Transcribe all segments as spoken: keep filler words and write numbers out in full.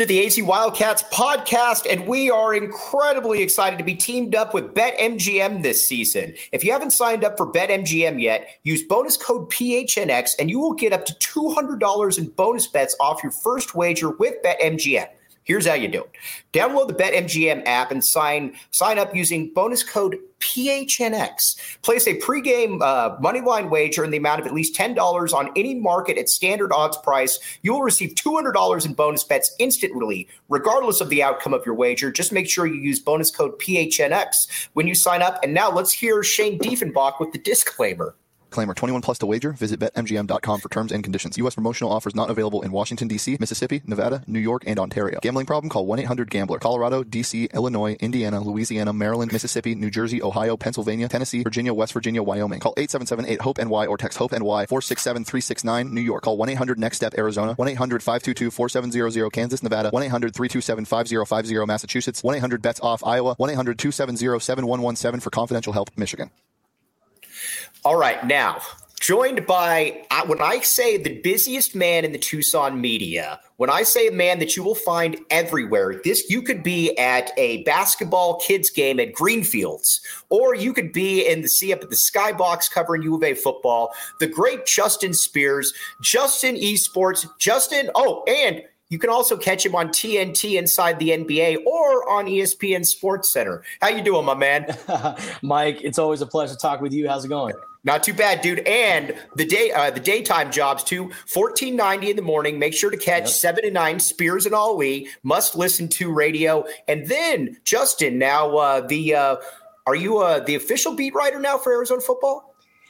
to the A Z Wildcats podcast, and we are incredibly excited to be teamed up with BetMGM this season. If you haven't signed up for BetMGM yet, use bonus code P H N X, and you will get up to two hundred dollars in bonus bets off your first wager with BetMGM. Here's how you do it. Download the BetMGM app and sign sign up using bonus code P H N X. Place a pregame uh, moneyline wager in the amount of at least ten dollars on any market at standard odds price. You will receive two hundred dollars in bonus bets instantly, regardless of the outcome of your wager. Just make sure you use bonus code P H N X when you sign up. And now let's hear Shane Diefenbach with the disclaimer. Disclaimer, twenty-one plus to wager. Visit Bet M G M dot com for terms and conditions. U S promotional offers not available in Washington, D C, Mississippi, Nevada, New York, and Ontario. Gambling problem? Call one eight hundred gambler. Colorado, D C, Illinois, Indiana, Louisiana, Maryland, Mississippi, New Jersey, Ohio, Pennsylvania, Tennessee, Virginia, West Virginia, Wyoming. Call eight seven seven eight hope N Y or text HOPE-NY four six seven three six nine. New York. Call one eight hundred next step Arizona. one eight hundred five two two four seven zero zero. Kansas, Nevada. one eight hundred three two seven five zero five zero. Massachusetts. one eight hundred bets off Iowa. one eight hundred two seven zero seven one one seven for confidential help, Michigan. All right, now, joined by, uh, when I say the busiest man in the Tucson media, when I say a man that you will find everywhere, this you could be at a basketball kids game at Greenfields, or you could be in the see up at the Skybox covering U of A football, the great Justin Spears, Justin Esports, Justin, oh, and you can also catch him on T N T Inside the N B A or on E S P N Sports Center. How you doing, my man? Mike, it's always a pleasure to talk with you. How's it going? Not too bad, dude. And the day, uh, the daytime jobs too. fourteen ninety in the morning. Make sure to catch yep. seven to nine. Spears and Ali. Must listen to radio. And then Justin, now uh, the uh, are you uh, the official beat writer now for Arizona football?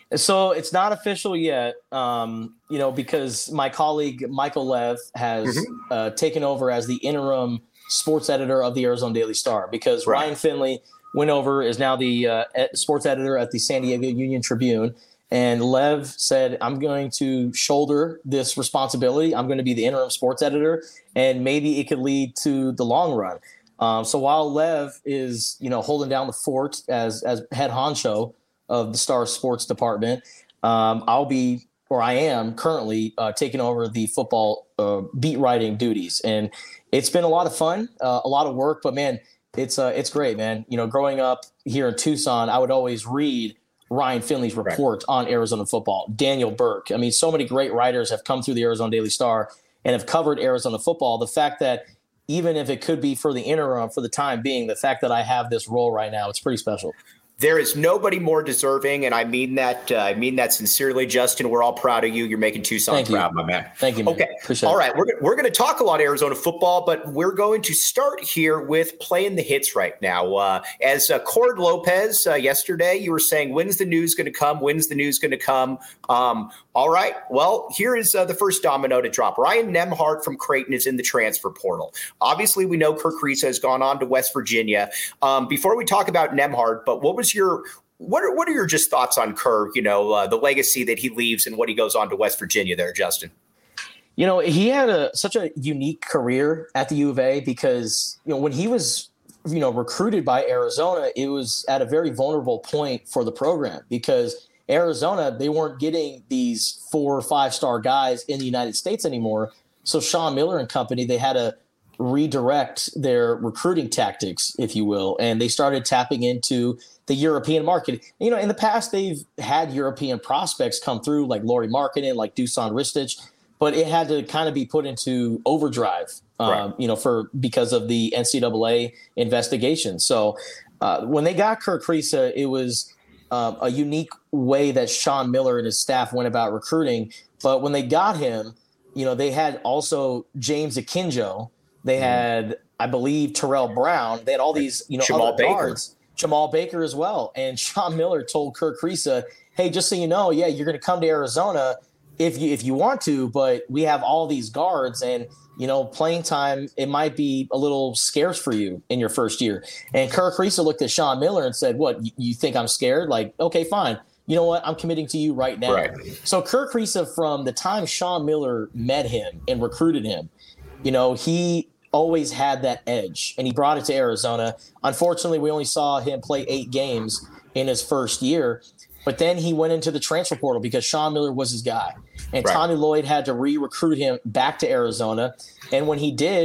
So it's not official yet, um, you know, because my colleague Michael Lev has mm-hmm. uh, taken over as the interim sports editor of the Arizona Daily Star, because right. Ryan Finley went over, is now the uh, sports editor at the San Diego Union Tribune. And Lev said, I'm going to shoulder this responsibility. I'm going to be the interim sports editor, and maybe it could lead to the long run. Um, so while Lev is, you know, holding down the fort as as head honcho of the Star Sports Department, um, I'll be, or I am currently uh, taking over the football uh, beat writing duties. And it's been a lot of fun, uh, a lot of work, but man, it's uh, it's great, man. You know, growing up here in Tucson, I would always read Ryan Finley's report right. on Arizona football, Daniel Burke. I mean, so many great writers have come through the Arizona Daily Star and have covered Arizona football. The fact that even if it could be for the interim, for the time being, the fact that I have this role right now, it's pretty special. There is nobody more deserving, and I mean that. Uh, I mean that sincerely, Justin. We're all proud of you. You're making Tucson Thank proud, you. my man. Thank you, man. Okay. Appreciate all it. right. We're we're going to talk a lot of Arizona football, but we're going to start here with playing the hits right now. Uh, as uh, Cord Lopez uh, yesterday, you were saying, when's the news going to come? When's the news going to come? Um, all right. Well, here is uh, the first domino to drop. Ryan Nembhard from Creighton is in the transfer portal. Obviously, we know Kirk Risa has gone on to West Virginia. Um, before we talk about Nembhard, but what was your What are what are your just thoughts on Kerr, you know, uh, the legacy that he leaves and what he goes on to West Virginia there, Justin? You know, he had a such a unique career at the U of A because, you know, when he was, you know, recruited by Arizona, it was at a very vulnerable point for the program because Arizona, they weren't getting these four or five star guys in the United States anymore. So Sean Miller and company, they had to redirect their recruiting tactics, if you will, and they started tapping into the European market. You know, in the past, they've had European prospects come through like Lauri Markkanen, like Dusan Ristic, but it had to kind of be put into overdrive, um, right. you know, for because of the N C double A investigation. So uh, when they got Kirk Risa, it was um, a unique way that Sean Miller and his staff went about recruiting. But when they got him, you know, they had also James Akinjo. They had, I believe, Terrell Brown. They had all these, you know, Jamal other Baker. guards. Jamal Baker as well. And Sean Miller told Kirk Risa, hey, just so you know, yeah, you're going to come to Arizona if you if you want to, but we have all these guards and, you know, playing time, it might be a little scarce for you in your first year. And Kirk Risa looked at Sean Miller and said, what, you think I'm scared? Like, okay, fine. You know what? I'm committing to you right now. Right. So Kirk Risa, from the time Sean Miller met him and recruited him, you know, he always had that edge, and he brought it to Arizona. Unfortunately, we only saw him play eight games in his first year, but then he went into the transfer portal because Sean Miller was his guy. And right. Tommy Lloyd had to re-recruit him back to Arizona. And when he did,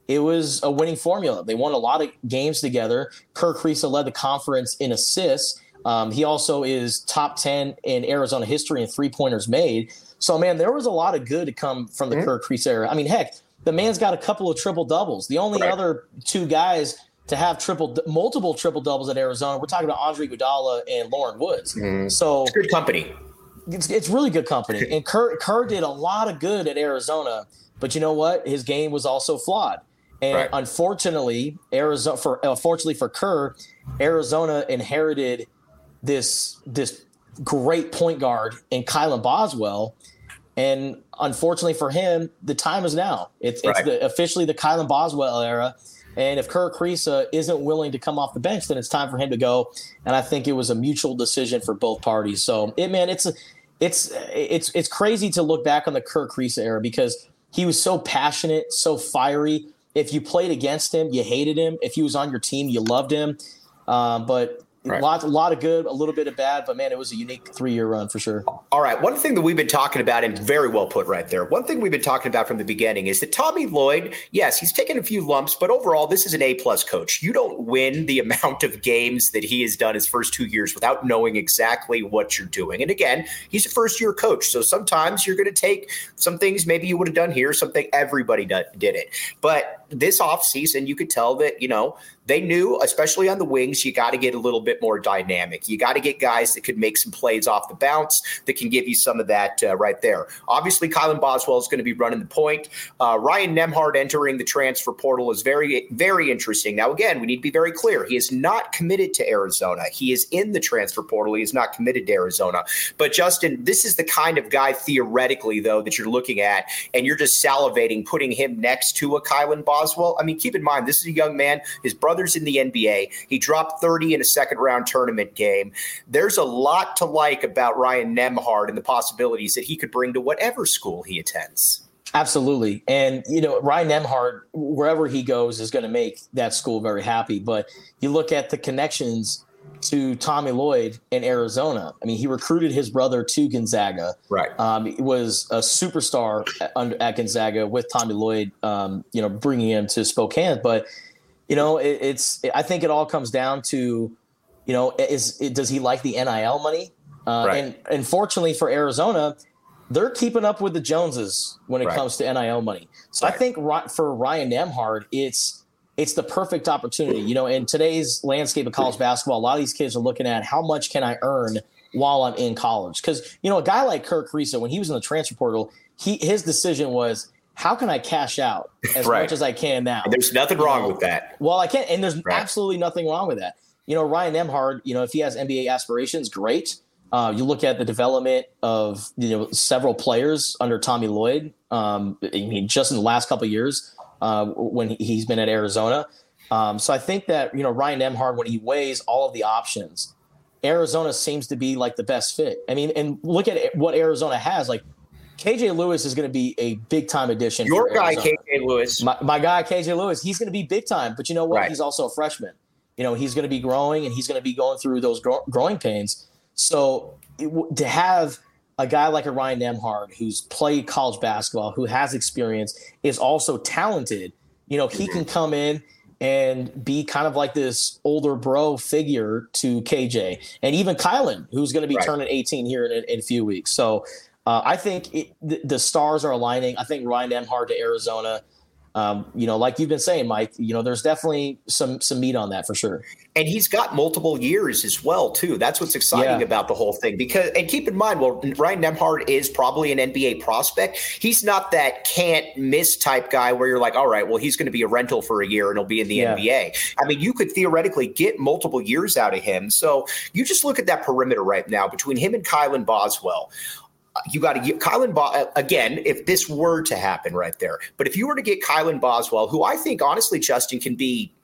it was a winning formula. They won a lot of games together. Kerr Kriisa led the conference in assists. Um, he also is top ten in Arizona history in three-pointers made. So, man, there was a lot of good to come from the mm-hmm. Kerr Kriisa era. I mean, heck, the man's got a couple of triple-doubles. The only right. other two guys to have triple, multiple triple-doubles at Arizona, we're talking about Andre Iguodala and Lauren Woods. Mm-hmm. So it's good company. It's, it's really good company. And Kerr, Kerr did a lot of good at Arizona, but you know what? His game was also flawed. And right. unfortunately, Arizona for unfortunately for Kerr, Arizona inherited this this great point guard in Kylan Boswell, and unfortunately for him, the time is now. It's right. it's the, officially the Kylan Boswell era, and if Kerr Kriisa isn't willing to come off the bench, then it's time for him to go. And I think it was a mutual decision for both parties. So, it man, it's it's it's it's crazy to look back on the Kerr Kriisa era because he was so passionate, so fiery. If you played against him, you hated him. If he was on your team, you loved him. Um, but Right. A lot, a lot of good, a little bit of bad, but man, it was a unique three-year run for sure. All right. One thing that we've been talking about, and very well put right there, one thing we've been talking about from the beginning is that Tommy Lloyd, yes, he's taken a few lumps, but overall, this is an A-plus coach. You don't win the amount of games that he has done his first two years without knowing exactly what you're doing. And again, he's a first-year coach, so sometimes you're going to take some things maybe you would have done here, something everybody did it. But this offseason, you could tell that, you know, they knew, especially on the wings, you got to get a little bit more dynamic. You got to get guys that could make some plays off the bounce that can give you some of that uh, right there. Obviously, Kylan Boswell is going to be running the point. Uh, Ryan Nembhard entering the transfer portal is very, very interesting. Now, again, we need to be very clear. He is not committed to Arizona. He is in the transfer portal. He is not committed to Arizona. But, Justin, this is the kind of guy theoretically, though, that you're looking at, and you're just salivating putting him next to a Kylan Boswell. I mean, keep in mind, this is a young man. His brother Brothers in the N B A. He dropped thirty in a second round tournament game. There's a lot to like about Ryan Nembhard and the possibilities that he could bring to whatever school he attends. Absolutely. And, you know, Ryan Nembhard, wherever he goes, is going to make that school very happy. But you look at the connections to Tommy Lloyd in Arizona. I mean, he recruited his brother to Gonzaga. Right. Um, he was a superstar at, at Gonzaga with Tommy Lloyd, um, you know, bringing him to Spokane. But You know, it, it's. I think it all comes down to, you know, is it, does he like the N I L money? Uh, right. And unfortunately for Arizona, they're keeping up with the Joneses when it right. comes to N I L money. So right. I think for Ryan Nembhard, it's it's the perfect opportunity. You know, in today's landscape of college basketball, a lot of these kids are looking at how much can I earn while I'm in college? Because, you know, a guy like Kerr Kriisa, when he was in the transfer portal, he his decision was, how can I cash out as right. much as I can now? And there's nothing wrong you know, with that. Well, I can't. And there's right. absolutely nothing wrong with that. You know, Ryan Nembhard, you know, if he has N B A aspirations, great. Uh, you look at the development of, you know, several players under Tommy Lloyd. Um, I mean, just in the last couple of years uh, when he's been at Arizona. Um, so I think that, you know, Ryan Nembhard, when he weighs all of the options, Arizona seems to be like the best fit. I mean, and look at what Arizona has. Like, K J Lewis is going to be a big-time addition. Your guy, K J Lewis. My, my guy, K J Lewis, he's going to be big-time. But you know what? Right. He's also a freshman. You know, he's going to be growing, and he's going to be going through those grow, growing pains. So it, to have a guy like a Ryan Nembhard who's played college basketball, who has experience, is also talented, you know, he can come in and be kind of like this older bro figure to K J. And even Kylan, who's going to be right. turning eighteen here in, in a few weeks. So – Uh, I think it, the, the stars are aligning. I think Ryan Nembhard to Arizona, um, you know, like you've been saying, Mike, you know, there's definitely some some meat on that for sure. And he's got multiple years as well, too. That's what's exciting yeah. about the whole thing. Because, and keep in mind, well, Ryan Nembhard is probably an N B A prospect. He's not that can't miss type guy where you're like, all right, well, he's going to be a rental for a year and he'll be in the yeah. N B A. I mean, you could theoretically get multiple years out of him. So you just look at that perimeter right now between him and Kylan Boswell. You got to get Kylan Bo- again, if this were to happen right there. But if you were to get Kylan Boswell, who I think, honestly, Justin, can be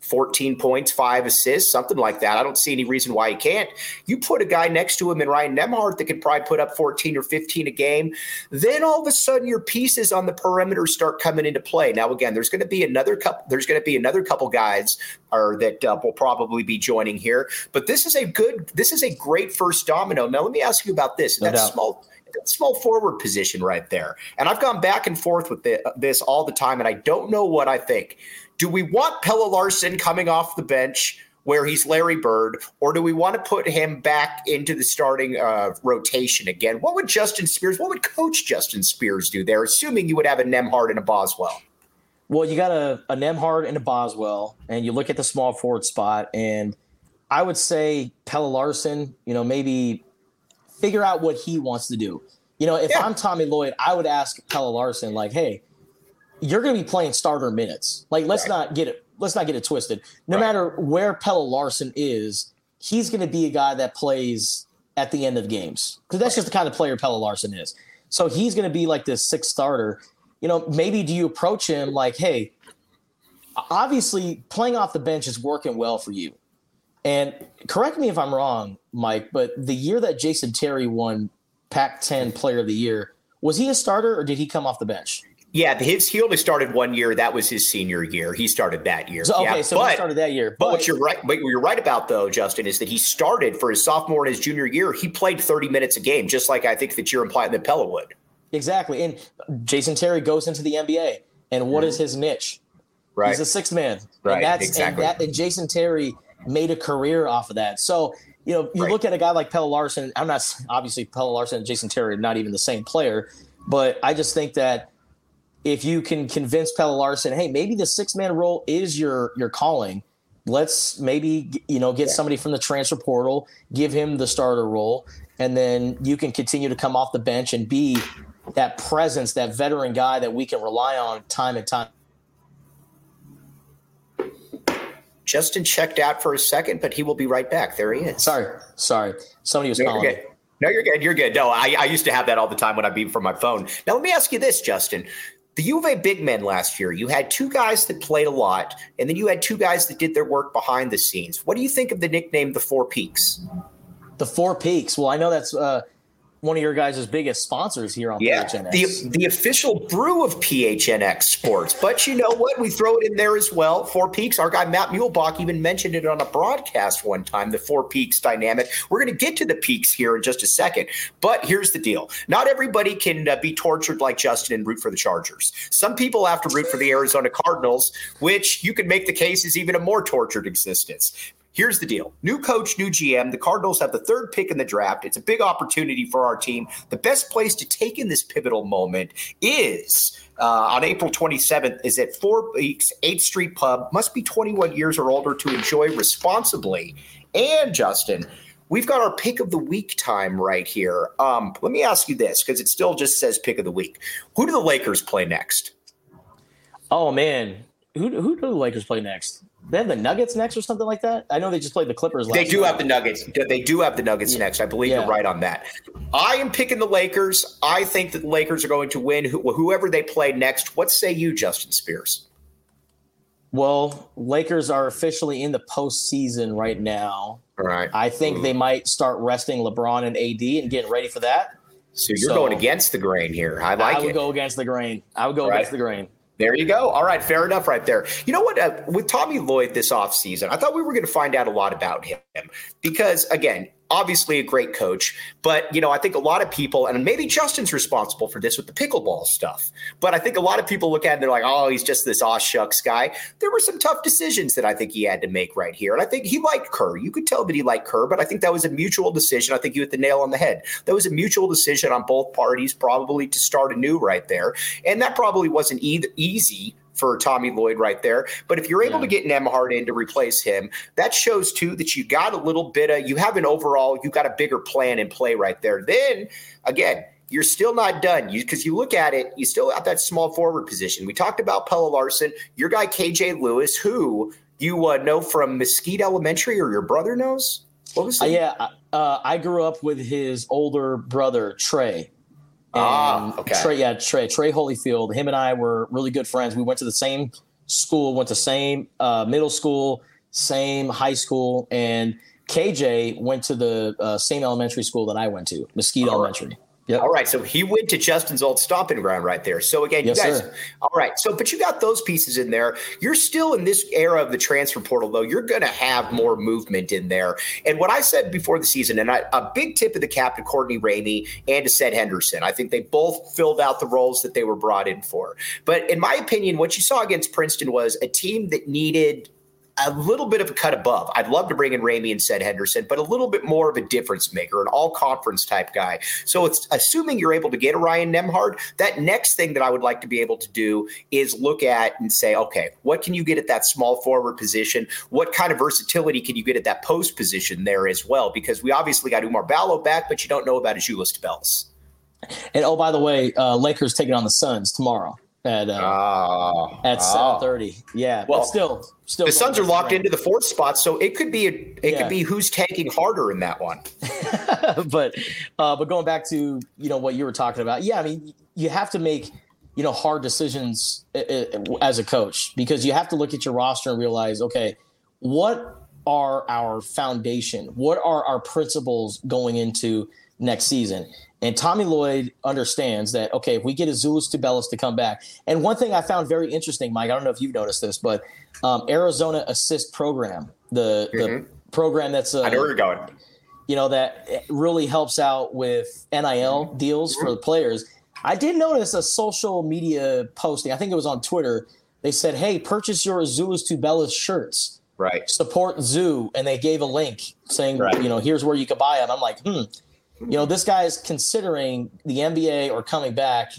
fourteen points, five assists, something like that. I don't see any reason why he can't. You put a guy next to him in Ryan Nembhard that could probably put up fourteen or fifteen a game. Then all of a sudden your pieces on the perimeter start coming into play. Now, again, there's going to be another couple, there's going to be another couple guys or that uh, will probably be joining here. But this is a good, this is a great first domino. Now, let me ask you about this. No That doubt. small small forward position right there. And I've gone back and forth with this all the time, and I don't know what I think. Do we want Pelle Larsson coming off the bench where he's Larry Bird, or do we want to put him back into the starting uh, rotation again? What would Justin Spears, what would Coach Justin Spears do there, assuming you would have a Nembhard and a Boswell? Well, you got a, a Nembhard and a Boswell, and you look at the small forward spot, and I would say Pelle Larsson, you know, maybe figure out what he wants to do. You know, if Yeah. I'm Tommy Lloyd, I would ask Pelle Larsson, like, hey, you're going to be playing starter minutes. Like, let's Right. not get it. Let's not get it twisted. No Right. matter where Pelle Larsson is, he's going to be a guy that plays at the end of games because that's just the kind of player Pelle Larsson is. So he's going to be like this sixth starter. You know, maybe do you approach him like, hey, obviously playing off the bench is working well for you. And correct me if I'm wrong, Mike, but the year that Jason Terry won Pac ten Player of the Year, was he a starter or did he come off the bench? Yeah, his he only started one year. That was his senior year. He started that year. So, okay, yeah, so but, he started that year. But, But, what you're right, what you're right about though, Justin, is that he started for his sophomore and his junior year. He played thirty minutes a game, just like I think that you're implying that Pelle would. exactly. And Jason Terry goes into the N B A. And what is his niche? Right. He's a sixth man. Right, And that's exactly. and that and Jason Terry made a career off of that. So, you know, you Right. look at a guy like Pelle Larsson. I'm not obviously Pelle Larsson and Jason Terry are not even the same player, but I just think that if you can convince Pelle Larsson, hey, maybe the six man role is your your calling. Let's maybe you know get Yeah. somebody from the transfer portal, give him the starter role, and then you can continue to come off the bench and be that presence, that veteran guy that we can rely on time and time. Justin checked out for a second, but he will be right back. There he is. Sorry, sorry, somebody was No, calling you're me. good. No, you're good. You're good. No, I, I used to have that all the time when I beat from my phone. Now, let me ask you this, Justin. The U of A big men last year, you had two guys that played a lot, and then you had two guys that did their work behind the scenes. What do you think of the nickname the Four Peaks? The Four Peaks. Well, I know that's uh, one of your guys' biggest sponsors here on Yeah, P H N X. the the official brew of P H N X Sports. But you know what? We throw it in there as well. Four Peaks. Our guy Matt Muehlbach even mentioned it on a broadcast one time, the Four Peaks dynamic. We're going to get to the peaks here in just a second. But here's the deal. Not everybody can uh, be tortured like Justin and root for the Chargers. Some people have to root for the Arizona Cardinals, which you could make the case is even a more tortured existence. Here's the deal. New coach, new G M. The Cardinals have the third pick in the draft. It's a big opportunity for our team. The best place to take in this pivotal moment is uh, on April twenty-seventh is at Four Peaks, eighth Street Pub. Must be twenty-one years or older to enjoy responsibly. And, Justin, we've got our pick of the week time right here. Um, let me ask you this, because it still just says pick of the week. Who do the Lakers play next? Oh man, who who do the Lakers play next? They have the Nuggets next or something like that. I know they just played the Clippers last They do night. have the Nuggets. They do have the Nuggets next. I believe Yeah. you're right on that. I am picking the Lakers. I think that the Lakers are going to win who, whoever they play next. What say you, Justin Spears? Well, Lakers are officially in the postseason right now. All right. I think they might start resting LeBron and A D and getting ready for that. So you're So- going against the grain here. I like I would it. go against the grain. I would go Right. against the grain. There you go. All right. Fair enough right there. You know what? Uh, with Tommy Lloyd this offseason, I thought we were going to find out a lot about him because, again, obviously a great coach. But, you know, I think a lot of people, and maybe Justin's responsible for this with the pickleball stuff, but I think a lot of people look at it and they're like, oh, he's just this aw shucks guy. There were some tough decisions that I think he had to make right here. And I think he liked Kerr. You could tell that he liked Kerr, but I think that was a mutual decision. I think you hit the nail on the head. That was a mutual decision on both parties, probably to start anew right there. And that probably wasn't either easy for Tommy Lloyd right there. But if you're able Yeah. to get Nembhard in to replace him, that shows too that you got a little bit of, you have an overall, you got a bigger plan in play right there. Then again, you're still not done because you, you look at it, you still have that small forward position. We talked about Pelle Larsson, your guy K J Lewis, who you uh, know from Mesquite Elementary, or your brother knows. What was Uh, the yeah, uh, I grew up with his older brother, Trey. Ah, And okay. Trey, yeah, Trey, Trey Holyfield. Him and I were really good friends. We went to the same school, went to same uh, middle school, same high school, and K J went to the uh, same elementary school that I went to, Mesquite All Elementary. Right. Yep. All right. So he went to Justin's old stomping ground right there. So again, yes, you guys, sir. all right. So, but you got those pieces in there. You're still in this era of the transfer portal, though. You're going to have more movement in there. And what I said before the season, and I, a big tip of the cap to Courtney Ramey and to Seth Henderson. I think they both filled out the roles that they were brought in for. But in my opinion, what you saw against Princeton was a team that needed a little bit of a cut above. I'd love to bring in Ramey and Seth Henderson, but a little bit more of a difference maker, an all-conference type guy. So it's assuming you're able to get a Ryan Nembhard, that next thing that I would like to be able to do is look at and say, okay, what can you get at that small forward position? What kind of versatility can you get at that post position there as well? Because we obviously got Umar Ballo back, but you don't know about Azuolas Tubelis. And oh, by the way, uh, Lakers taking on the Suns tomorrow. At uh, oh, at oh. seven thirty, yeah. Well, but still, still, the Suns are locked around. into the fourth spot, so it could be a, it yeah. could be who's tanking harder in that one. but uh, but going back to you know what you were talking about, yeah. I mean, you have to make you know hard decisions as a coach because you have to look at your roster and realize, okay, what are our foundation? What are our principles going into next season? And Tommy Lloyd understands that, okay, if we get Azuolas Tubelis to come back. And one thing I found very interesting, Mike, I don't know if you've noticed this, but um, Arizona Assist Program, the, mm-hmm. the program that's uh, I know where you're going. You know, that really helps out with N I L mm-hmm. deals mm-hmm. for the players. I did notice a social media posting. I think it was on Twitter. They said, hey, purchase your Azuolas Tubelis shirts. Right. Support Zoo. And they gave a link saying, right. you know, here's where you can buy them. I'm like, hmm. You know, this guy is considering the N B A or coming back,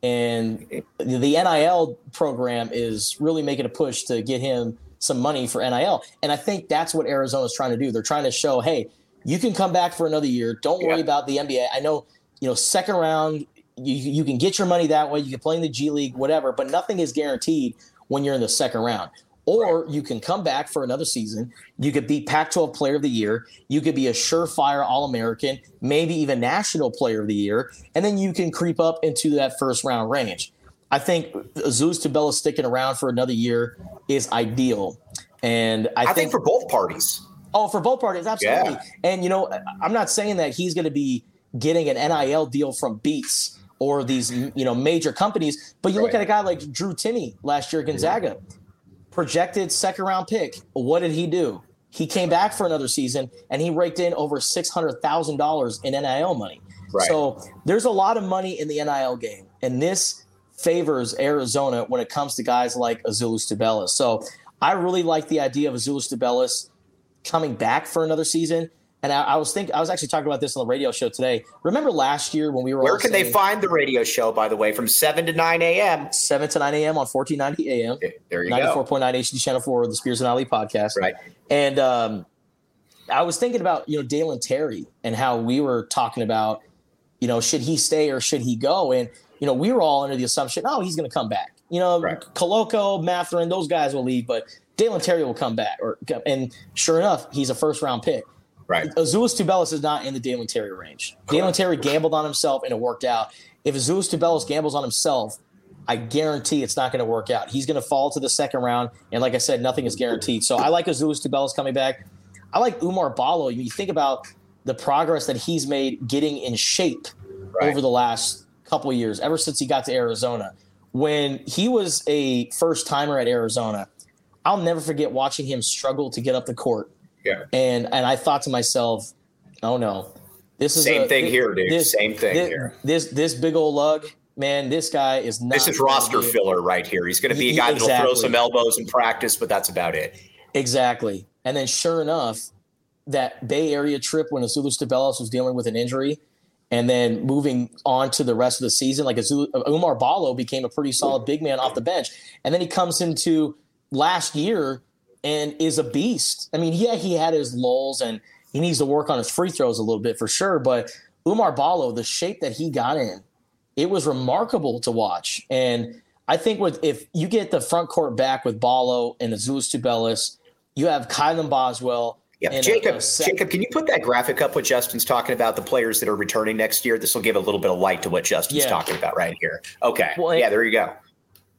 and the N I L program is really making a push to get him some money for N I L. And I think that's what Arizona is trying to do. They're trying to show, hey, you can come back for another year. Don't worry yeah. about the N B A. I know, you know, second round, you, you can get your money that way. You can play in the G League, whatever, but nothing is guaranteed when you're in the second round. Or you can come back for another season. You could be Pac twelve Player of the Year. You could be a surefire All-American, maybe even National Player of the Year. And then you can creep up into that first-round range. I think Azuolas Tubelis sticking around for another year is ideal. And I, I think, think for both parties. Oh, for both parties, absolutely. Yeah. And, you know, I'm not saying that he's going to be getting an N I L deal from Beats or these, you know, major companies. But you right. look at a guy like Drew Timme last year at Gonzaga. Mm-hmm. Projected second round pick. What did he do? He came back for another season and he raked in over six hundred thousand dollars in N I L money. Right. So there's a lot of money in the N I L game. And this favors Arizona when it comes to guys like Azuolas Tubelis. So I really like the idea of Azuolas Tubelis coming back for another season. And I, I was thinking, I was actually talking about this on the radio show today. Remember last year when we were Where all can saying, they find the radio show, by the way, from seven to nine a.m.? seven to nine a.m. on fourteen ninety A M. There you ninety-four point nine H D Channel four, the Spears and Ali podcast. Right. And um, I was thinking about, you know, Dalen Terry and how we were talking about, you know, should he stay or should he go? And, you know, we were all under the assumption, oh, he's going to come back. You know, right. Koloko, Mathurin, those guys will leave, but Dalen Terry will come back. Or And sure enough, he's a first-round pick. Right. Azuolas Tubelis is not in the Dalen Terry range. Correct. Dalen Terry gambled on himself and it worked out. If Azuolas Tubelis gambles on himself, I guarantee it's not going to work out. He's going to fall to the second round. And like I said, nothing is guaranteed. So I like Azuolas Tubelis coming back. I like Umar Ballo. You think about the progress that he's made getting in shape right. over the last couple of years, ever since he got to Arizona. When he was a first-timer at Arizona, I'll never forget watching him struggle to get up the court. Yeah. And and I thought to myself, oh no, this is same a, thing this, here, dude. This, same thing this, here. This this big old lug, man, this guy is not. This is roster be, filler right here. He's going to be a guy exactly. that'll throw some elbows in practice, but that's about it. Exactly. And then sure enough, that Bay Area trip when Azuolas Tubelis was dealing with an injury, and then moving on to the rest of the season, like Azul, Umar Ballo became a pretty solid big man off the bench, and then he comes into last year and is a beast. I mean, yeah, he had his lulls and he needs to work on his free throws a little bit for sure. But Umar Ballo, the shape that he got in, it was remarkable to watch. And I think with if you get the front court back with Ballo and Azuolas Tubelis, you have Kylan Boswell. Yeah, Jacob, a, a Jacob, can you put that graphic up what Justin's talking about, the players that are returning next year? This will give a little bit of light to what Justin's yeah. talking about right here. Okay. Well, yeah, there you go.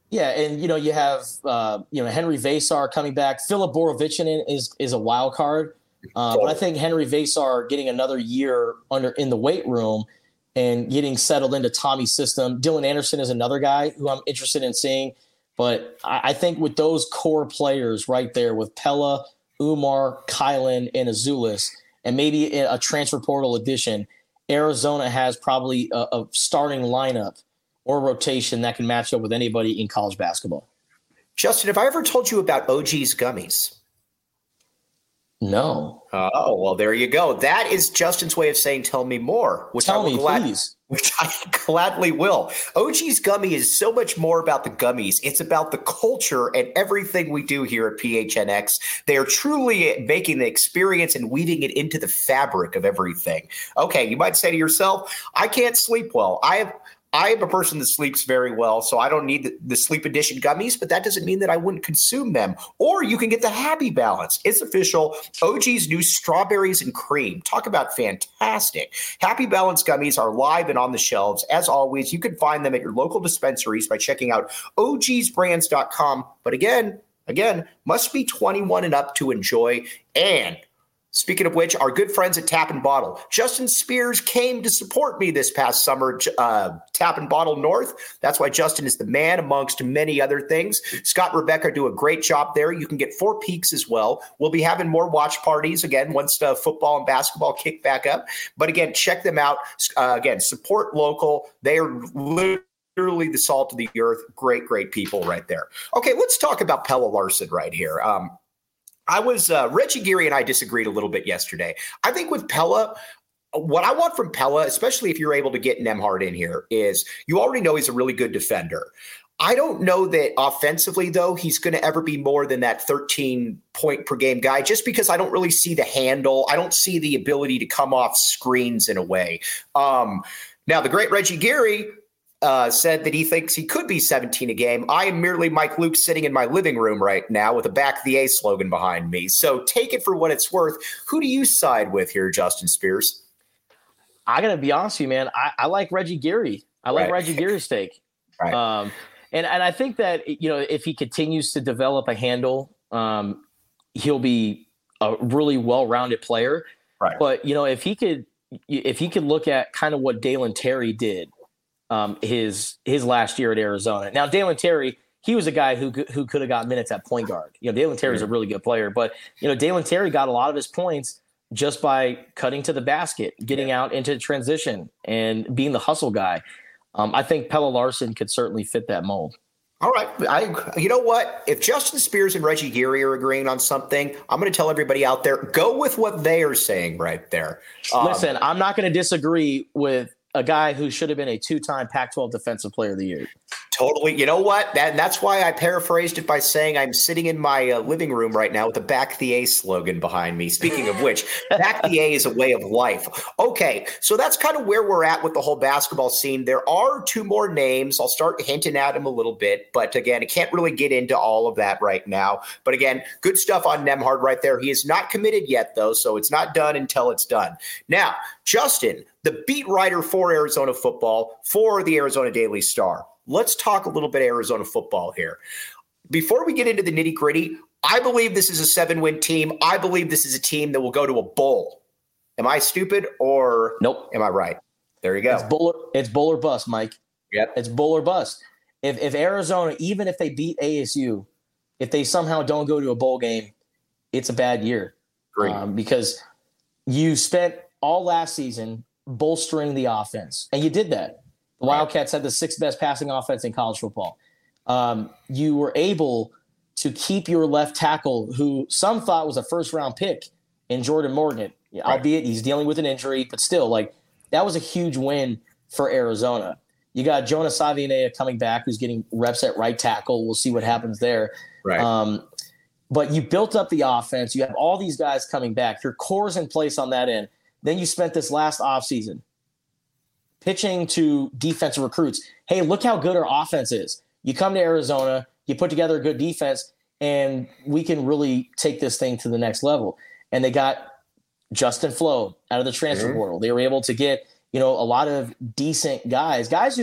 Yeah, and you know you have uh, you know Henry Vasar coming back. Philip Borovichinen is is a wild card, uh, but I think Henry Vasar getting another year under in the weight room and getting settled into Tommy's system. Dylan Anderson is another guy who I'm interested in seeing, but I, I think with those core players right there with Pella, Umar, Kylan, and Azulis, and maybe a transfer portal addition, Arizona has probably a, a starting lineup or rotation that can match up with anybody in college basketball. Justin, have I ever told you about O G's gummies? No. Oh, well, there you go. That is Justin's way of saying tell me more. Which tell I will me, glad- please. Which I gladly will. O G's Gummy is so much more about the gummies. It's about the culture and everything we do here at P H N X. They are truly making the experience and weaving it into the fabric of everything. Okay, you might say to yourself, I can't sleep well. I have I am a person that sleeps very well, so I don't need the, the Sleep Edition gummies, but that doesn't mean that I wouldn't consume them. Or you can get the Happy Balance. It's official. O G's new strawberries and cream. Talk about fantastic. Happy Balance gummies are live and on the shelves. As always, you can find them at your local dispensaries by checking out O Gs brands dot com. But again, again, must be twenty-one and up to enjoy. And speaking of which, our good friends at Tap and Bottle. Justin Spears came to support me this past summer, uh, Tap and Bottle North. That's why Justin is the man amongst many other things. Scott and Rebecca do a great job there. You can get Four Peaks as well. We'll be having more watch parties, again, once the football and basketball kick back up. But again, check them out. Uh, again, support local. They are literally Literally the salt of the earth. Great, great people right there. Okay, let's talk about Pelle Larsson right here. Um, I was uh, Reggie Geary and I disagreed a little bit yesterday. I think with Pella, what I want from Pella, especially if you're able to get Nembhard in here, is you already know he's a really good defender. I don't know that offensively, though, he's going to ever be more than that thirteen point per game guy, just because I don't really see the handle. I don't see the ability to come off screens in a way. Um, now, the great Reggie Geary Uh, said that he thinks he could be seventeen a game. I am merely Mike Luke sitting in my living room right now with a Back the A slogan behind me. So take it for what it's worth. Who do you side with here, Justin Spears? I got to be honest with you, man. I, I like Reggie Geary. I like Right. Reggie Geary's take. Right. Um, and, and I think that, you know, if he continues to develop a handle, um, he'll be a really well-rounded player. Right. But, you know, if he could, if he could look at kind of what Dalen Terry did, Um, his his last year at Arizona. Now, Dalen Terry, he was a guy who who could have got minutes at point guard. You know, Dalen Terry's a really good player, but you know, Dalen Terry got a lot of his points just by cutting to the basket, getting yeah. out into transition, and being the hustle guy. Um, I think Pelle Larsson could certainly fit that mold. All right. I, you know what? If Justin Spears and Reggie Geary are agreeing on something, I'm going to tell everybody out there, go with what they are saying right there. Um, Listen, I'm not going to disagree with a guy who should have been a two-time Pac twelve Defensive Player of the Year. Totally. You know what? That, that's why I paraphrased it by saying I'm sitting in my uh, living room right now with a Back the A slogan behind me. Speaking of which, Back the A is a way of life. Okay, so that's kind of where we're at with the whole basketball scene. There are two more names. I'll start hinting at them a little bit, but again, I can't really get into all of that right now. But again, good stuff on Nembhard right there. He is not committed yet, though, so it's not done until it's done. Now, Justin, the beat writer for Arizona football, for the Arizona Daily Star. Let's talk a little bit Arizona football here. Before we get into the nitty gritty, I believe this is a seven-win team. I believe this is a team that will go to a bowl. Am I stupid or nope? Am I right? There you go. It's bowl or, it's bowl or bust, Mike. Yep. It's bowl or bust. If if Arizona, even if they beat A S U, if they somehow don't go to a bowl game, it's a bad year. Great. Um, because you spent all last season bolstering the offense, and you did that. The Wildcats had the sixth best passing offense in college football. Um, you were able to keep your left tackle, who some thought was a first-round pick, in Jordan Morgan, right. albeit he's dealing with an injury, but still, like that was a huge win for Arizona. You got Jonas Savianea coming back, who's getting reps at right tackle. We'll see what happens there. Right. Um, but you built up the offense. You have all these guys coming back. Your core's in place on that end. Then you spent this last offseason pitching to defensive recruits. Hey, look how good our offense is. You come to Arizona, you put together a good defense, and we can really take this thing to the next level. And they got Justin Flo out of the transfer mm-hmm. portal. They were able to get, you know, a lot of decent guys, guys who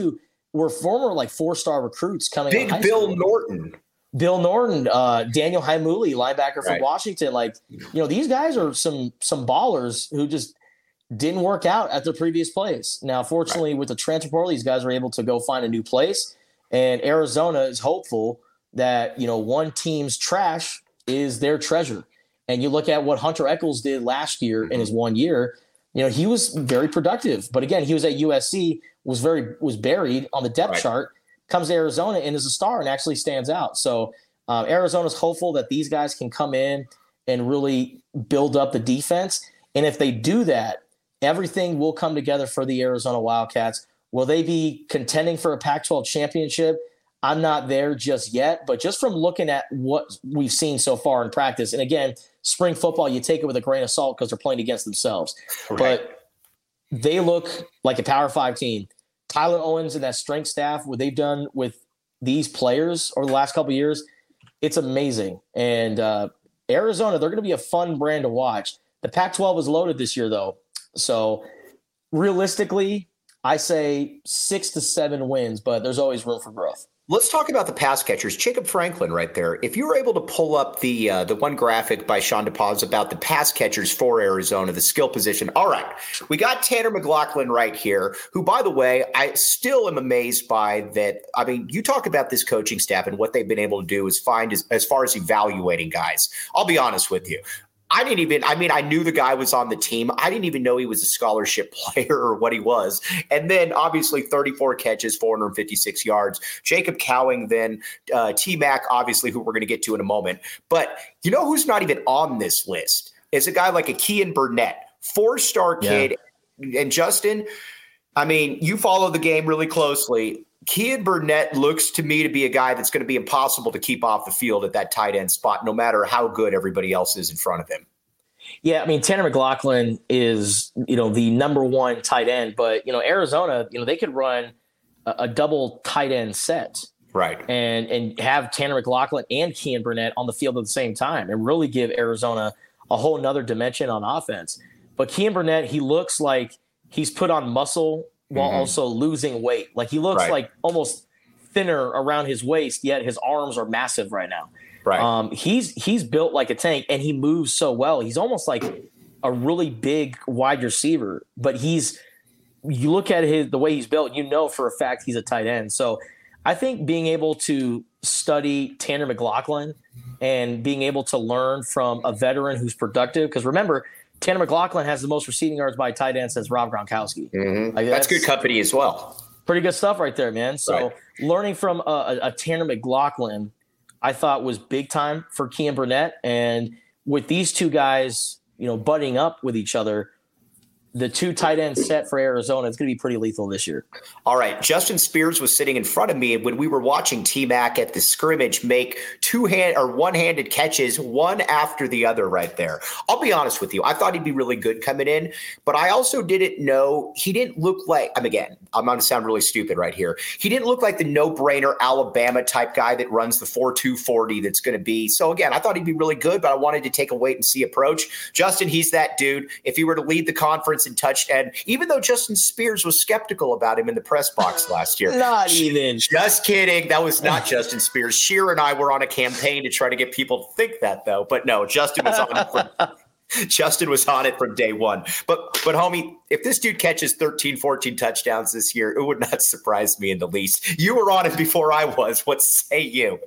were former like four-star recruits coming. Big out of high Bill school. Norton. Bill Norton, uh, Daniel Haimuli, linebacker from Right. Washington. Like, you know, these guys are some some ballers who just didn't work out at their previous place. Now, fortunately, right. with the transfer portal, these guys were able to go find a new place. And Arizona is hopeful that, you know, one team's trash is their treasure. And you look at what Hunter Echols did last year mm-hmm. in his one year, you know, he was very productive. But again, he was at U S C, was very was buried on the depth right. chart, comes to Arizona and is a star and actually stands out. So uh, Arizona's hopeful that these guys can come in and really build up the defense. And if they do that, everything will come together for the Arizona Wildcats. Will they be contending for a Pac twelve championship? I'm not there just yet, but just from looking at what we've seen so far in practice, and again, spring football, you take it with a grain of salt because they're playing against themselves. Right. But they look like a Power Five team. Tyler Owens and that strength staff, what they've done with these players over the last couple of years, it's amazing. And uh, Arizona, they're going to be a fun brand to watch. The Pac twelve is loaded this year, though. So realistically, I say six to seven wins, but there's always room for growth. Let's talk about the pass catchers. Jacob Franklin right there. If you were able to pull up the uh, the one graphic by Sean DePaz about the pass catchers for Arizona, the skill position. All right. We got Tanner McLaughlin right here, who, by the way, I still am amazed by that. I mean, you talk about this coaching staff and what they've been able to do is find as, as far as evaluating guys. I'll be honest with you. I didn't even, I mean, I knew the guy was on the team. I didn't even know he was a scholarship player or what he was. And then obviously thirty-four catches, four hundred fifty-six yards. Jacob Cowing, then uh, T-Mac, obviously, who we're going to get to in a moment. But you know who's not even on this list is a guy like a Kean Burnett, four-star kid. Yeah. And Justin, I mean, you follow the game really closely. Kean Burnett looks to me to be a guy that's going to be impossible to keep off the field at that tight end spot, no matter how good everybody else is in front of him. Yeah, I mean, Tanner McLaughlin is, you know, the number one tight end, but, you know, Arizona, you know, they could run a, a double tight end set. Right. And and have Tanner McLaughlin and Kean Burnett on the field at the same time and really give Arizona a whole nother dimension on offense. But Kean Burnett, he looks like he's put on muscle while mm-hmm. also losing weight. Like he looks right. like almost thinner around his waist, yet his arms are massive right now. Right. Um, he's he's built like a tank, and he moves so well. He's almost like a really big wide receiver, but he's you look at his the way he's built, you know for a fact he's a tight end. So I think being able to study Tanner McLaughlin and being able to learn from a veteran who's productive, because remember, Tanner McLaughlin has the most receiving yards by tight end since Rob Gronkowski. Mm-hmm. Like that's, that's good company as well. Pretty good stuff right there, man. So right. learning from a, a, a Tanner McLaughlin, I thought was big time for Kean Burnett. And with these two guys, you know, butting up with each other, the two tight end set for Arizona is going to be pretty lethal this year. All right. Justin Spears was sitting in front of me when we were watching T-Mac at the scrimmage make two hand or one-handed catches, one after the other right there. I'll be honest with you. I thought he'd be really good coming in, but I also didn't know he didn't look like, I'm again, I'm going to sound really stupid right here. He didn't look like the no-brainer Alabama type guy that runs the four two forty that's going to be. So again, I thought he'd be really good, but I wanted to take a wait and see approach. Justin, he's that dude. If he were to lead the conference and touched, and even though Justin Spears was skeptical about him in the press box last year, not even just kidding. That was not Justin Spears. Sheer and I were on a campaign to try to get people to think that, though. But no, Justin was on it from, Justin was on it from day one. But but homie, if this dude catches thirteen, fourteen touchdowns this year, it would not surprise me in the least. You were on it before I was. What say you?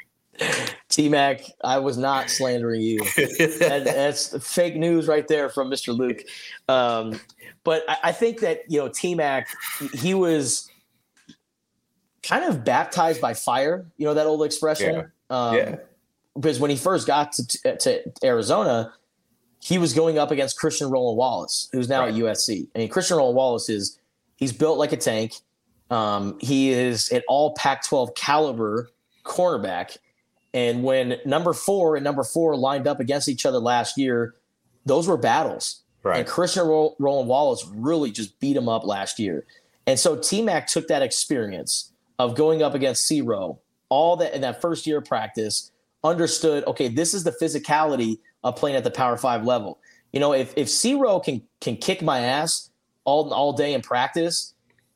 T-Mac, I was not slandering you. that, that's fake news right there from Mister Luke. Um, but I, I think that, you know, T-Mac, he was kind of baptized by fire, you know, that old expression. Yeah. Um, yeah. Because when he first got to, to Arizona, he was going up against Christian Roland Wallace, who's now right. at U S C. I mean, Christian Roland Wallace is he's built like a tank. Um, he is an all Pac twelve caliber cornerback. And when number four and number four lined up against each other last year, those were battles. Right. And Christian Ro- Roland Wallace really just beat him up last year. And so T-Mac took that experience of going up against C-Row, all that in that first year of practice, understood, okay, this is the physicality of playing at the Power Five level. You know, if if C-Row can can kick my ass all all day in practice,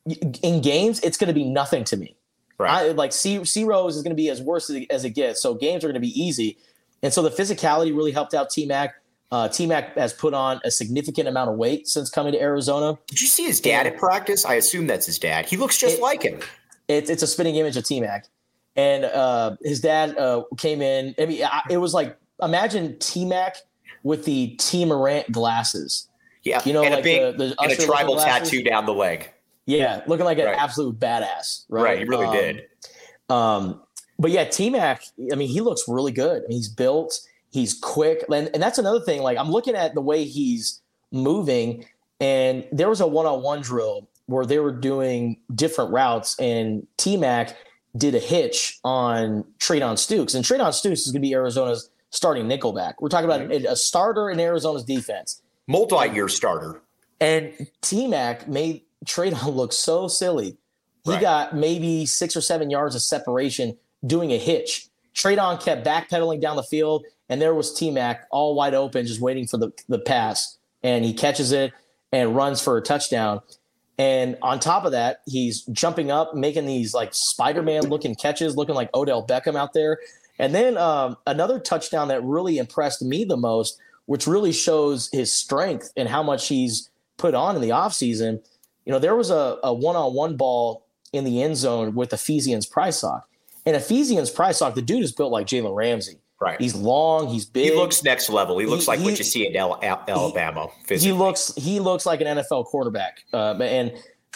in games, it's going to be nothing to me. Right. I, like C, C Rose is going to be as worse as it, as it gets. So games are going to be easy. And so the physicality really helped out T-Mac. Uh, T-Mac has put on a significant amount of weight since coming to Arizona. Did you see his dad at practice? I assume that's his dad. He looks just it, like him. It, it's a spitting image of T-Mac. And uh, his dad uh, came in. I mean, I, it was like, imagine T-Mac with the T. Morant glasses. Yeah, you know, and like a big, the, the and a tribal tattoo down the leg. Yeah, looking like an right. absolute badass. Right, right he really um, did. Um, but yeah, T-Mac, I mean, he looks really good. I mean, he's built, he's quick. And, and that's another thing. Like, I'm looking at the way he's moving, and there was a one-on-one drill where they were doing different routes, and T-Mac did a hitch on Treydon Stukes. And Treydon Stukes is going to be Arizona's starting nickelback. We're talking about a, a starter in Arizona's defense. Multi-year starter. And T-Mac made Treydon look so silly. He right. got maybe six or seven yards of separation doing a hitch. Treydon kept backpedaling down the field, and there was T-Mac all wide open, just waiting for the, the pass. And he catches it and runs for a touchdown. And on top of that, he's jumping up, making these like Spider-Man looking catches, looking like Odell Beckham out there. And then um, another touchdown that really impressed me the most, which really shows his strength and how much he's put on in the offseason. You know, there was a, a one-on-one ball in the end zone with Ephesians Prysock. And Ephesians Prysock, the dude is built like Jalen Ramsey. Right. He's long. He's big. He looks next level. He looks he, like he, what you see in Alabama. He, he looks he looks like an N F L quarterback. Uh, and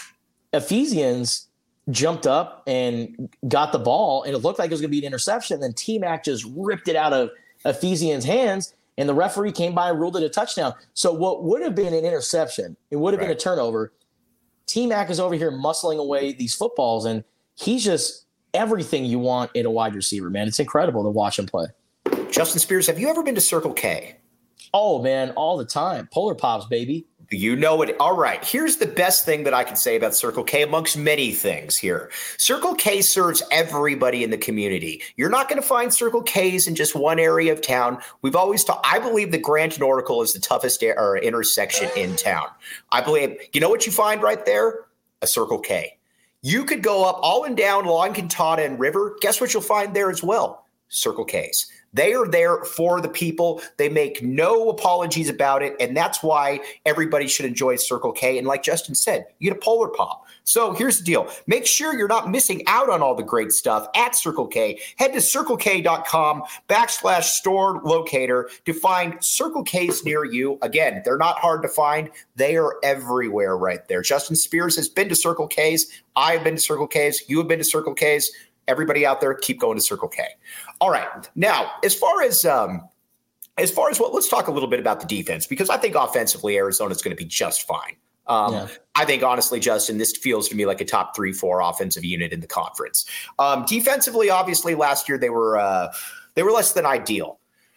Ephesians jumped up and got the ball, and it looked like it was going to be an interception. And then T-Mac just ripped it out of Ephesians' hands, and the referee came by and ruled it a touchdown. So what would have been an interception, it would have right. been a turnover. T-Mac is over here muscling away these footballs, and he's just everything you want in a wide receiver, man. It's incredible to watch him play. Justin Spears, have you ever been to Circle K? Oh, man, all the time. Polar Pops, baby. You know it. All right. Here's the best thing that I can say about Circle K amongst many things here. Circle K serves everybody in the community. You're not going to find Circle Ks in just one area of town. We've always talked. I believe that Grant and Oracle is the toughest er- or intersection in town. I believe, you know what you find right there? A Circle K. You could go up all and down along Cantata and River. Guess what you'll find there as well? Circle Ks. They are there for the people. They make no apologies about it, and that's why everybody should enjoy Circle K. And like Justin said, you get a Polar Pop. So here's the deal. Make sure you're not missing out on all the great stuff at Circle K. Head to circlek.com backslash store locator to find Circle Ks near you. Again, they're not hard to find. They are everywhere right there. Justin Spears has been to Circle Ks. I've been to Circle Ks. You have been to Circle Ks. Everybody out there, keep going to Circle K. All right. Now, as far as um, as far as what, let's talk a little bit about the defense, because I think offensively Arizona is going to be just fine. Um, yeah. I think, honestly, Justin, this feels to me like a top three, four offensive unit in the conference. Um, defensively, obviously, last year they were uh, they were less than ideal.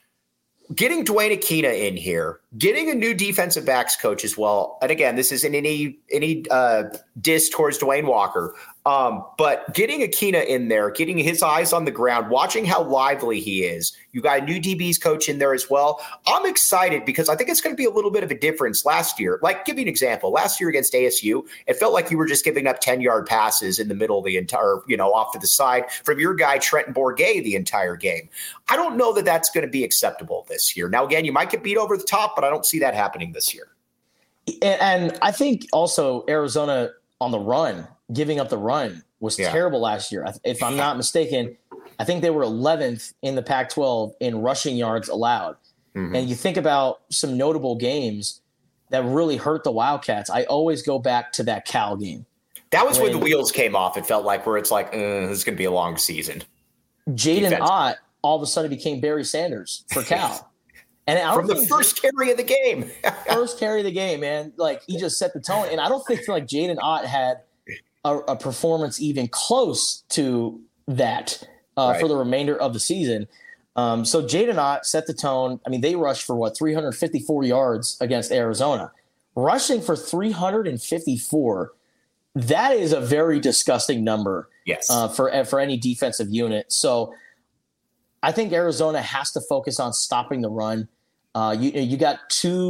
Getting Dwayne Akina in here, getting a new defensive backs coach as well. And again, this isn't any any uh, diss towards Dwayne Walker. Um, but getting Akina in there, getting his eyes on the ground, watching how lively he is. You got a new D B's coach in there as well. I'm excited because I think it's going to be a little bit of a difference last year. Like, give you an example. Last year against A S U, it felt like you were just giving up ten-yard passes in the middle of the entire, you know, off to the side from your guy, Trenton Bourguet, the entire game. I don't know that that's going to be acceptable this year. Now, again, you might get beat over the top, but I don't see that happening this year. And I think also Arizona on the run, giving up the run was yeah. terrible last year. If I'm not mistaken, I think they were eleventh in the Pac twelve in rushing yards allowed. Mm-hmm. And you think about some notable games that really hurt the Wildcats. I always go back to that Cal game. That was when, when the wheels came off. It felt like where it's like, uh, this is going to be a long season. Jaden Ott all of a sudden became Barry Sanders for Cal. And I From the first Jaden, carry of the game. first carry of the game, man. Like, he just set the tone. And I don't think like Jaden Ott had a, a performance even close to that uh, right. for the remainder of the season. Um, so Jaden Ott set the tone. I mean, they rushed for what, three hundred fifty-four yards against Arizona. Rushing for three hundred fifty-four, that is a very disgusting number yes. uh, for, for any defensive unit. So I think Arizona has to focus on stopping the run. Uh, you you got two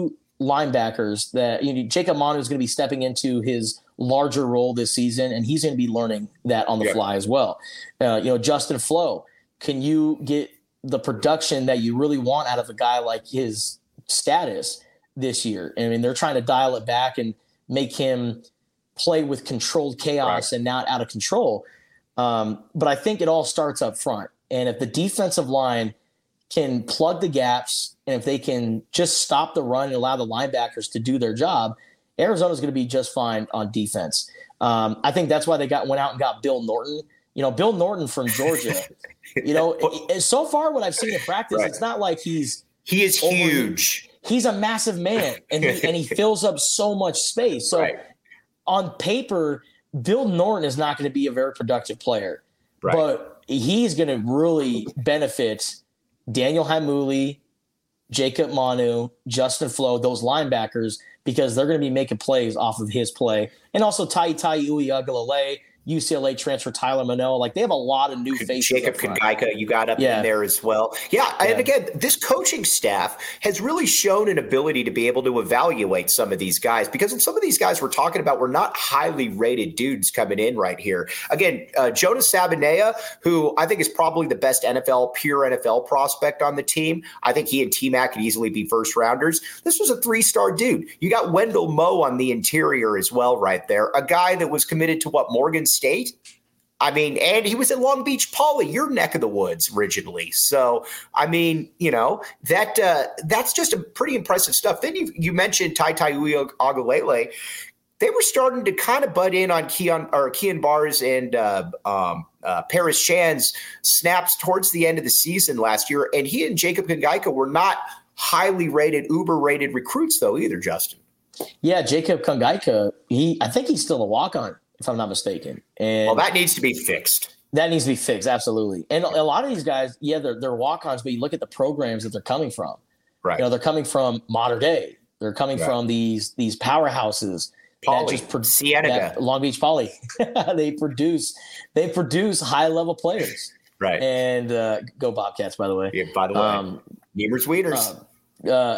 linebackers that you know, Jacob Manu is going to be stepping into his larger role this season, and he's going to be learning that on the yeah. fly as well. Uh, you know, Justin Flo, can you get the production that you really want out of a guy like his status this year? I mean, they're trying to dial it back and make him play with controlled chaos right. and not out of control. Um, but I think it all starts up front. And if the defensive line can plug the gaps, and if they can just stop the run and allow the linebackers to do their job, Arizona's going to be just fine on defense. Um, I think that's why they got went out and got Bill Norton. You know, Bill Norton from Georgia. You know, it, so far what I've seen in practice, right. it's not like he's he is over, huge. He's a massive man, and he, and he fills up so much space. So right. on paper, Bill Norton is not going to be a very productive player, right. but he's going to really benefit Daniel Haimuli, Jacob Manu, Justin Flo, those linebackers, because they're going to be making plays off of his play. And also Tai Tai Uiagalelei, U C L A transfer Tyler Manoa. Like, they have a lot of new faces. Jacob Kongaika, you got up yeah. in there as well. Yeah, yeah, and again, this coaching staff has really shown an ability to be able to evaluate some of these guys, because some of these guys we're talking about were not highly rated dudes coming in right here. Again, uh, Jonas Sabanea, who I think is probably the best N F L, pure N F L prospect on the team. I think he and T-Mac could easily be first rounders. This was a three-star dude. You got Wendell Moe on the interior as well right there, a guy that was committed to what, Morgan State. I mean, and he was at Long Beach Poly, your neck of the woods originally. So, I mean, you know, that uh, that's just a pretty impressive stuff. Then you you mentioned Tai Tai Uiagalelei. They were starting to kind of butt in on Keon or Keon Bars and uh, um, uh, Paris Chan's snaps towards the end of the season last year, and he and Jacob Kongaika were not highly rated, uber rated recruits though either, Justin. Yeah, Jacob Kongaika, he I think he's still a walk-on, if I'm not mistaken. And well, that needs to be fixed. That needs to be fixed, absolutely. And a lot of these guys, yeah, they're, they're walk-ons, but you look at the programs that they're coming from. Right. You know, they're coming from Mater Dei. They're coming right. from these these powerhouses. Poly, that just pro- Cienega. That Long Beach Poly. they produce they produce high-level players. Right. And uh, go Bobcats, by the way. Yeah, by the way. Um, Nemers Wieners. Uh, uh,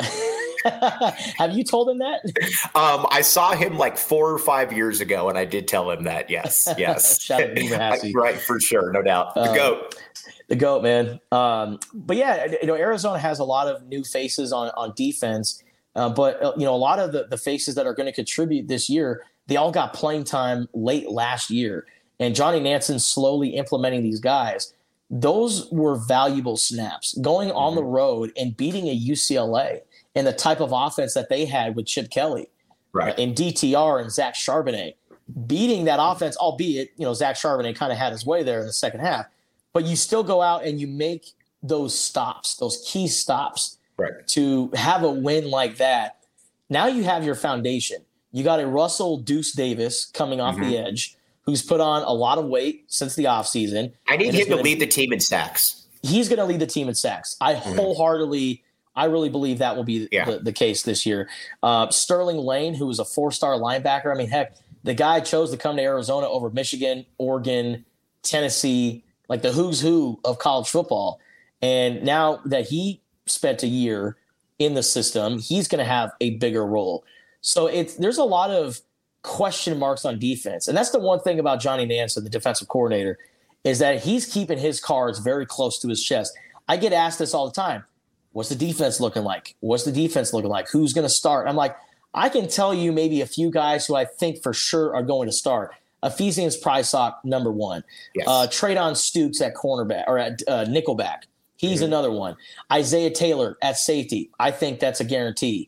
have you told him that? Um, I saw him like four or five years ago, and I did tell him that. Yes, yes. Shout out to Beaver Hassey. Right, for sure, no doubt. The uh, GOAT. The GOAT, man. Um, but yeah, you know, Arizona has a lot of new faces on on defense, uh, but uh, you know, a lot of the, the faces that are going to contribute this year, they all got playing time late last year, and Johnny Nansen slowly implementing these guys. Those were valuable snaps. Going on mm-hmm. the road and beating a U C L A and the type of offense that they had with Chip Kelly, right, uh, and D T R and Zach Charbonnet, beating that offense, albeit, you know, Zach Charbonnet kind of had his way there in the second half, but you still go out and you make those stops, those key stops, right, to have a win like that. Now you have your foundation. You got a Russell Deuce Davis coming off mm-hmm. the edge, who's put on a lot of weight since the offseason. I need him to lead the team in sacks. He's going to lead the team in sacks. I mm-hmm. wholeheartedly I really believe that will be yeah. the, the case this year. Uh, Sterling Lane, who was a four-star linebacker. I mean, heck, the guy chose to come to Arizona over Michigan, Oregon, Tennessee, like the who's who of college football. And now that he spent a year in the system, he's going to have a bigger role. So it's there's a lot of question marks on defense. And that's the one thing about Johnny Nansen, the defensive coordinator, is that he's keeping his cards very close to his chest. I get asked this all the time. What's the defense looking like? What's the defense looking like? Who's going to start? I'm like, I can tell you maybe a few guys who I think for sure are going to start. Ephesians Prysock, number one. Yes. Uh, Traydon Stukes at cornerback or at uh, nickelback. He's mm-hmm. another one. Isaiah Taylor at safety. I think that's a guarantee.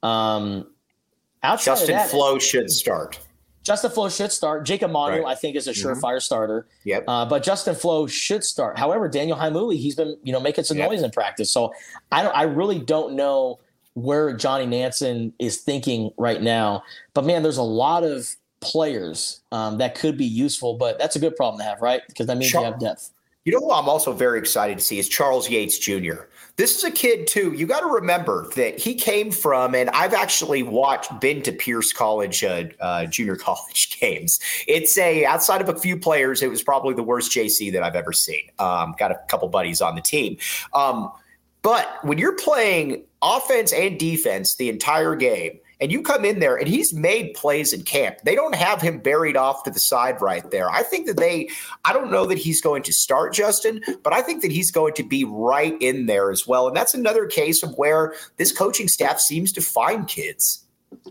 Um, outside Justin of that, Flo should start. Justin Flo should start. Jacob Manu, right. I think, is a surefire mm-hmm. starter. Yep. Uh, but Justin Flo should start. However, Daniel Haimuli, he's been, you know, making some yep. noise in practice. So I don't. I really don't know where Johnny Nansen is thinking right now. But man, there's a lot of players um, that could be useful. But that's a good problem to have, right? Because that means Char- you have depth. You know who I'm also very excited to see is Charles Yates Junior This is a kid, too. You got to remember that he came from, and I've actually watched, been to Pierce College, uh, uh, junior college games. It's a, outside of a few players, it was probably the worst J C that I've ever seen. Um, got a couple buddies on the team. Um, but when you're playing offense and defense the entire game. And you come in there and he's made plays in camp. They don't have him buried off to the side right there. I think that they, I don't know that he's going to start, Justin, but I think that he's going to be right in there as well. And that's another case of where this coaching staff seems to find kids.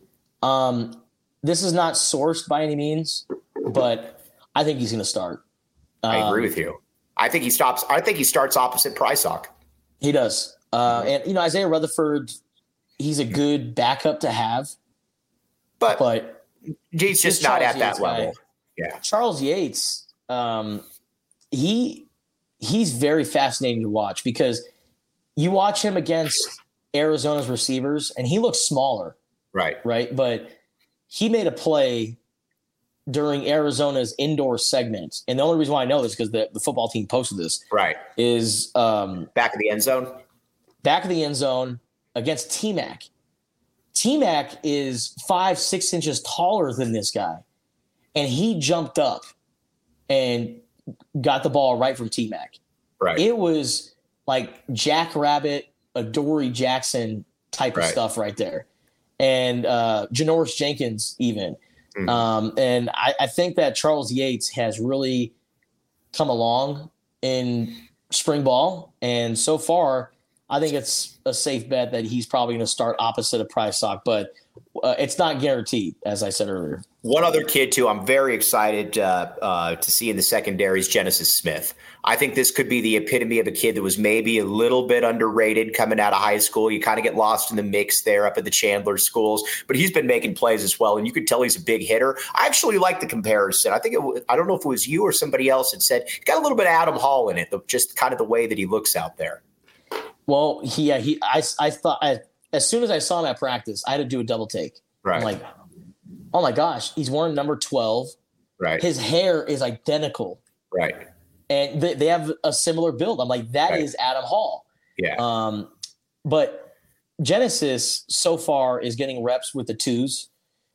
Um, this is not sourced by any means, but I think he's going to start. I agree um, with you. I think he stops. I think he starts opposite Prysock. He does. Uh, and, you know, Isaiah Rutherford, he's a good backup to have, but, but he's just not at that level. Guy, yeah. Charles Yates, um, he he's very fascinating to watch because you watch him against Arizona's receivers and he looks smaller. Right. Right. But he made a play during Arizona's indoor segment. And the only reason why I know this is because the, the football team posted this. Right. Is um, back of the end zone. Back of the end zone against T-Mac. T-Mac is five, six inches taller than this guy. And he jumped up and got the ball right from T-Mac. Right. It was like Jackrabbit, Adoree Jackson type of right. stuff right there. And uh, Janoris Jenkins even. Mm-hmm. Um, and I, I think that Charles Yates has really come along in spring ball. And so far, I think it's a safe bet that he's probably going to start opposite of Prysock, but uh, it's not guaranteed, as I said earlier. One other kid, too, I'm very excited uh, uh, to see in the secondary is Genesis Smith. I think this could be the epitome of a kid that was maybe a little bit underrated coming out of high school. You kind of get lost in the mix there up at the Chandler schools, but he's been making plays as well, and you could tell he's a big hitter. I actually like the comparison. I think it, I don't know if it was you or somebody else that said got a little bit of Adam Hall in it, just kind of the way that he looks out there. Well, he, yeah, he, I, I thought I, as soon as I saw him at practice, I had to do a double take. Right. I'm like, oh my gosh, he's wearing number twelve. Right. His hair is identical. Right. And they, they have a similar build. I'm like, that right. is Adam Hall. Yeah. Um, but Genesis so far is getting reps with the twos,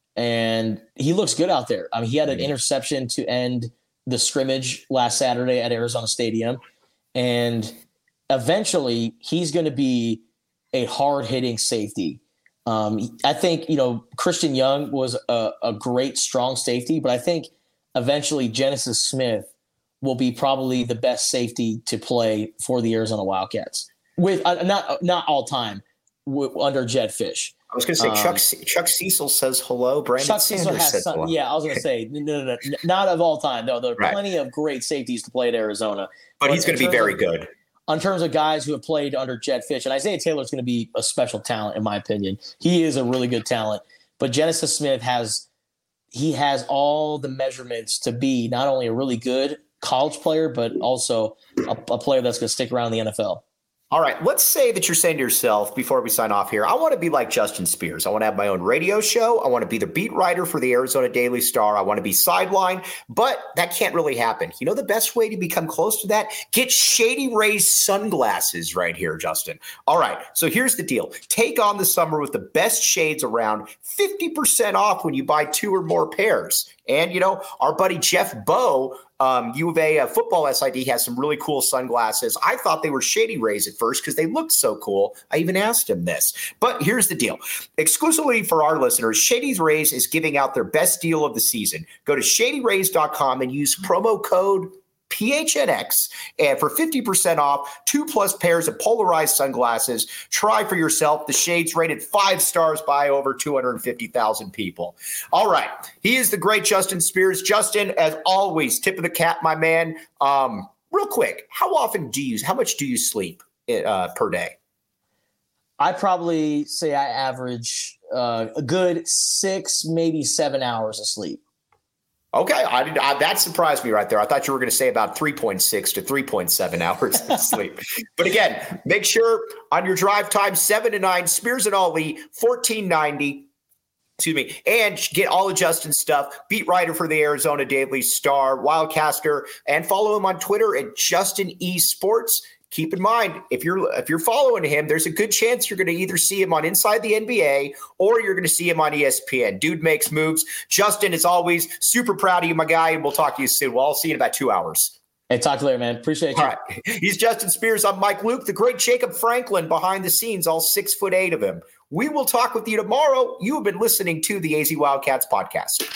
and he looks good out there. I mean, he had an mm-hmm. interception to end the scrimmage last Saturday at Arizona Stadium, and eventually he's going to be a hard-hitting safety. Um, I think, you know, Christian Young was a, a great, strong safety, but I think eventually Genesis Smith will be probably the best safety to play for the Arizona Wildcats. With uh, not not all time w- under Jedd Fisch. I was going to say, um, Chuck Chuck Cecil says hello. Brandon Chuck Sanders Cecil has says some, hello. Yeah, I was going to say, no, no, no, no, not of all time. No, there are right. plenty of great safeties to play at Arizona. But, but he's going to be very of, good. In terms of guys who have played under Jedd Fisch, and Isaiah Taylor is going to be a special talent, in my opinion. He is a really good talent. But Genesis Smith has he has all the measurements to be not only a really good college player, but also a, a player that's going to stick around in the N F L. All right, let's say that you're saying to yourself before we sign off here, I want to be like Justin Spears. I want to have my own radio show. I want to be the beat writer for the Arizona Daily Star. I want to be sideline, but that can't really happen. You know the best way to become close to that? Get Shady Rays sunglasses right here, Justin. All right, so here's the deal. Take on the summer with the best shades around, fifty percent off when you buy two or more pairs. And, you know, our buddy Jeff Bowe, um, U of A uh, football S I D, has some really cool sunglasses. I thought they were Shady Rays at first because they looked so cool. I even asked him this. But here's the deal. Exclusively for our listeners, Shady Rays is giving out their best deal of the season. Go to shady rays dot com and use promo code P H N X and for fifty percent off, two plus pairs of polarized sunglasses. Try for yourself. The shades rated five stars by over two hundred fifty thousand people. All right. He is the great Justin Spears. Justin, as always, tip of the cap, my man. Um, real quick, how often do you, how much do you sleep uh, per day? I probably say I average uh, a good six, maybe seven hours of sleep. Okay, I did, I, that surprised me right there. I thought you were going to say about three point six to three point seven hours of sleep. But again, make sure on your drive time, seven to nine, Spears and Ali, fourteen ninety. Excuse me, and get all of Justin's stuff. Beat writer for the Arizona Daily Star, Wildcaster, and follow him on Twitter at Justin E Sports. Keep in mind, if you're if you're following him, there's a good chance you're going to either see him on Inside the N B A or you're going to see him on E S P N. Dude makes moves. Justin, as always, super proud of you, my guy, and we'll talk to you soon. Well, I'll see you in about two hours. Hey, talk to you later, man. Appreciate you. All right. He's Justin Spears. I'm Mike Luke, the great Jacob Franklin behind the scenes, all six foot eight of him. We will talk with you tomorrow. You have been listening to the A Z Wildcats podcast.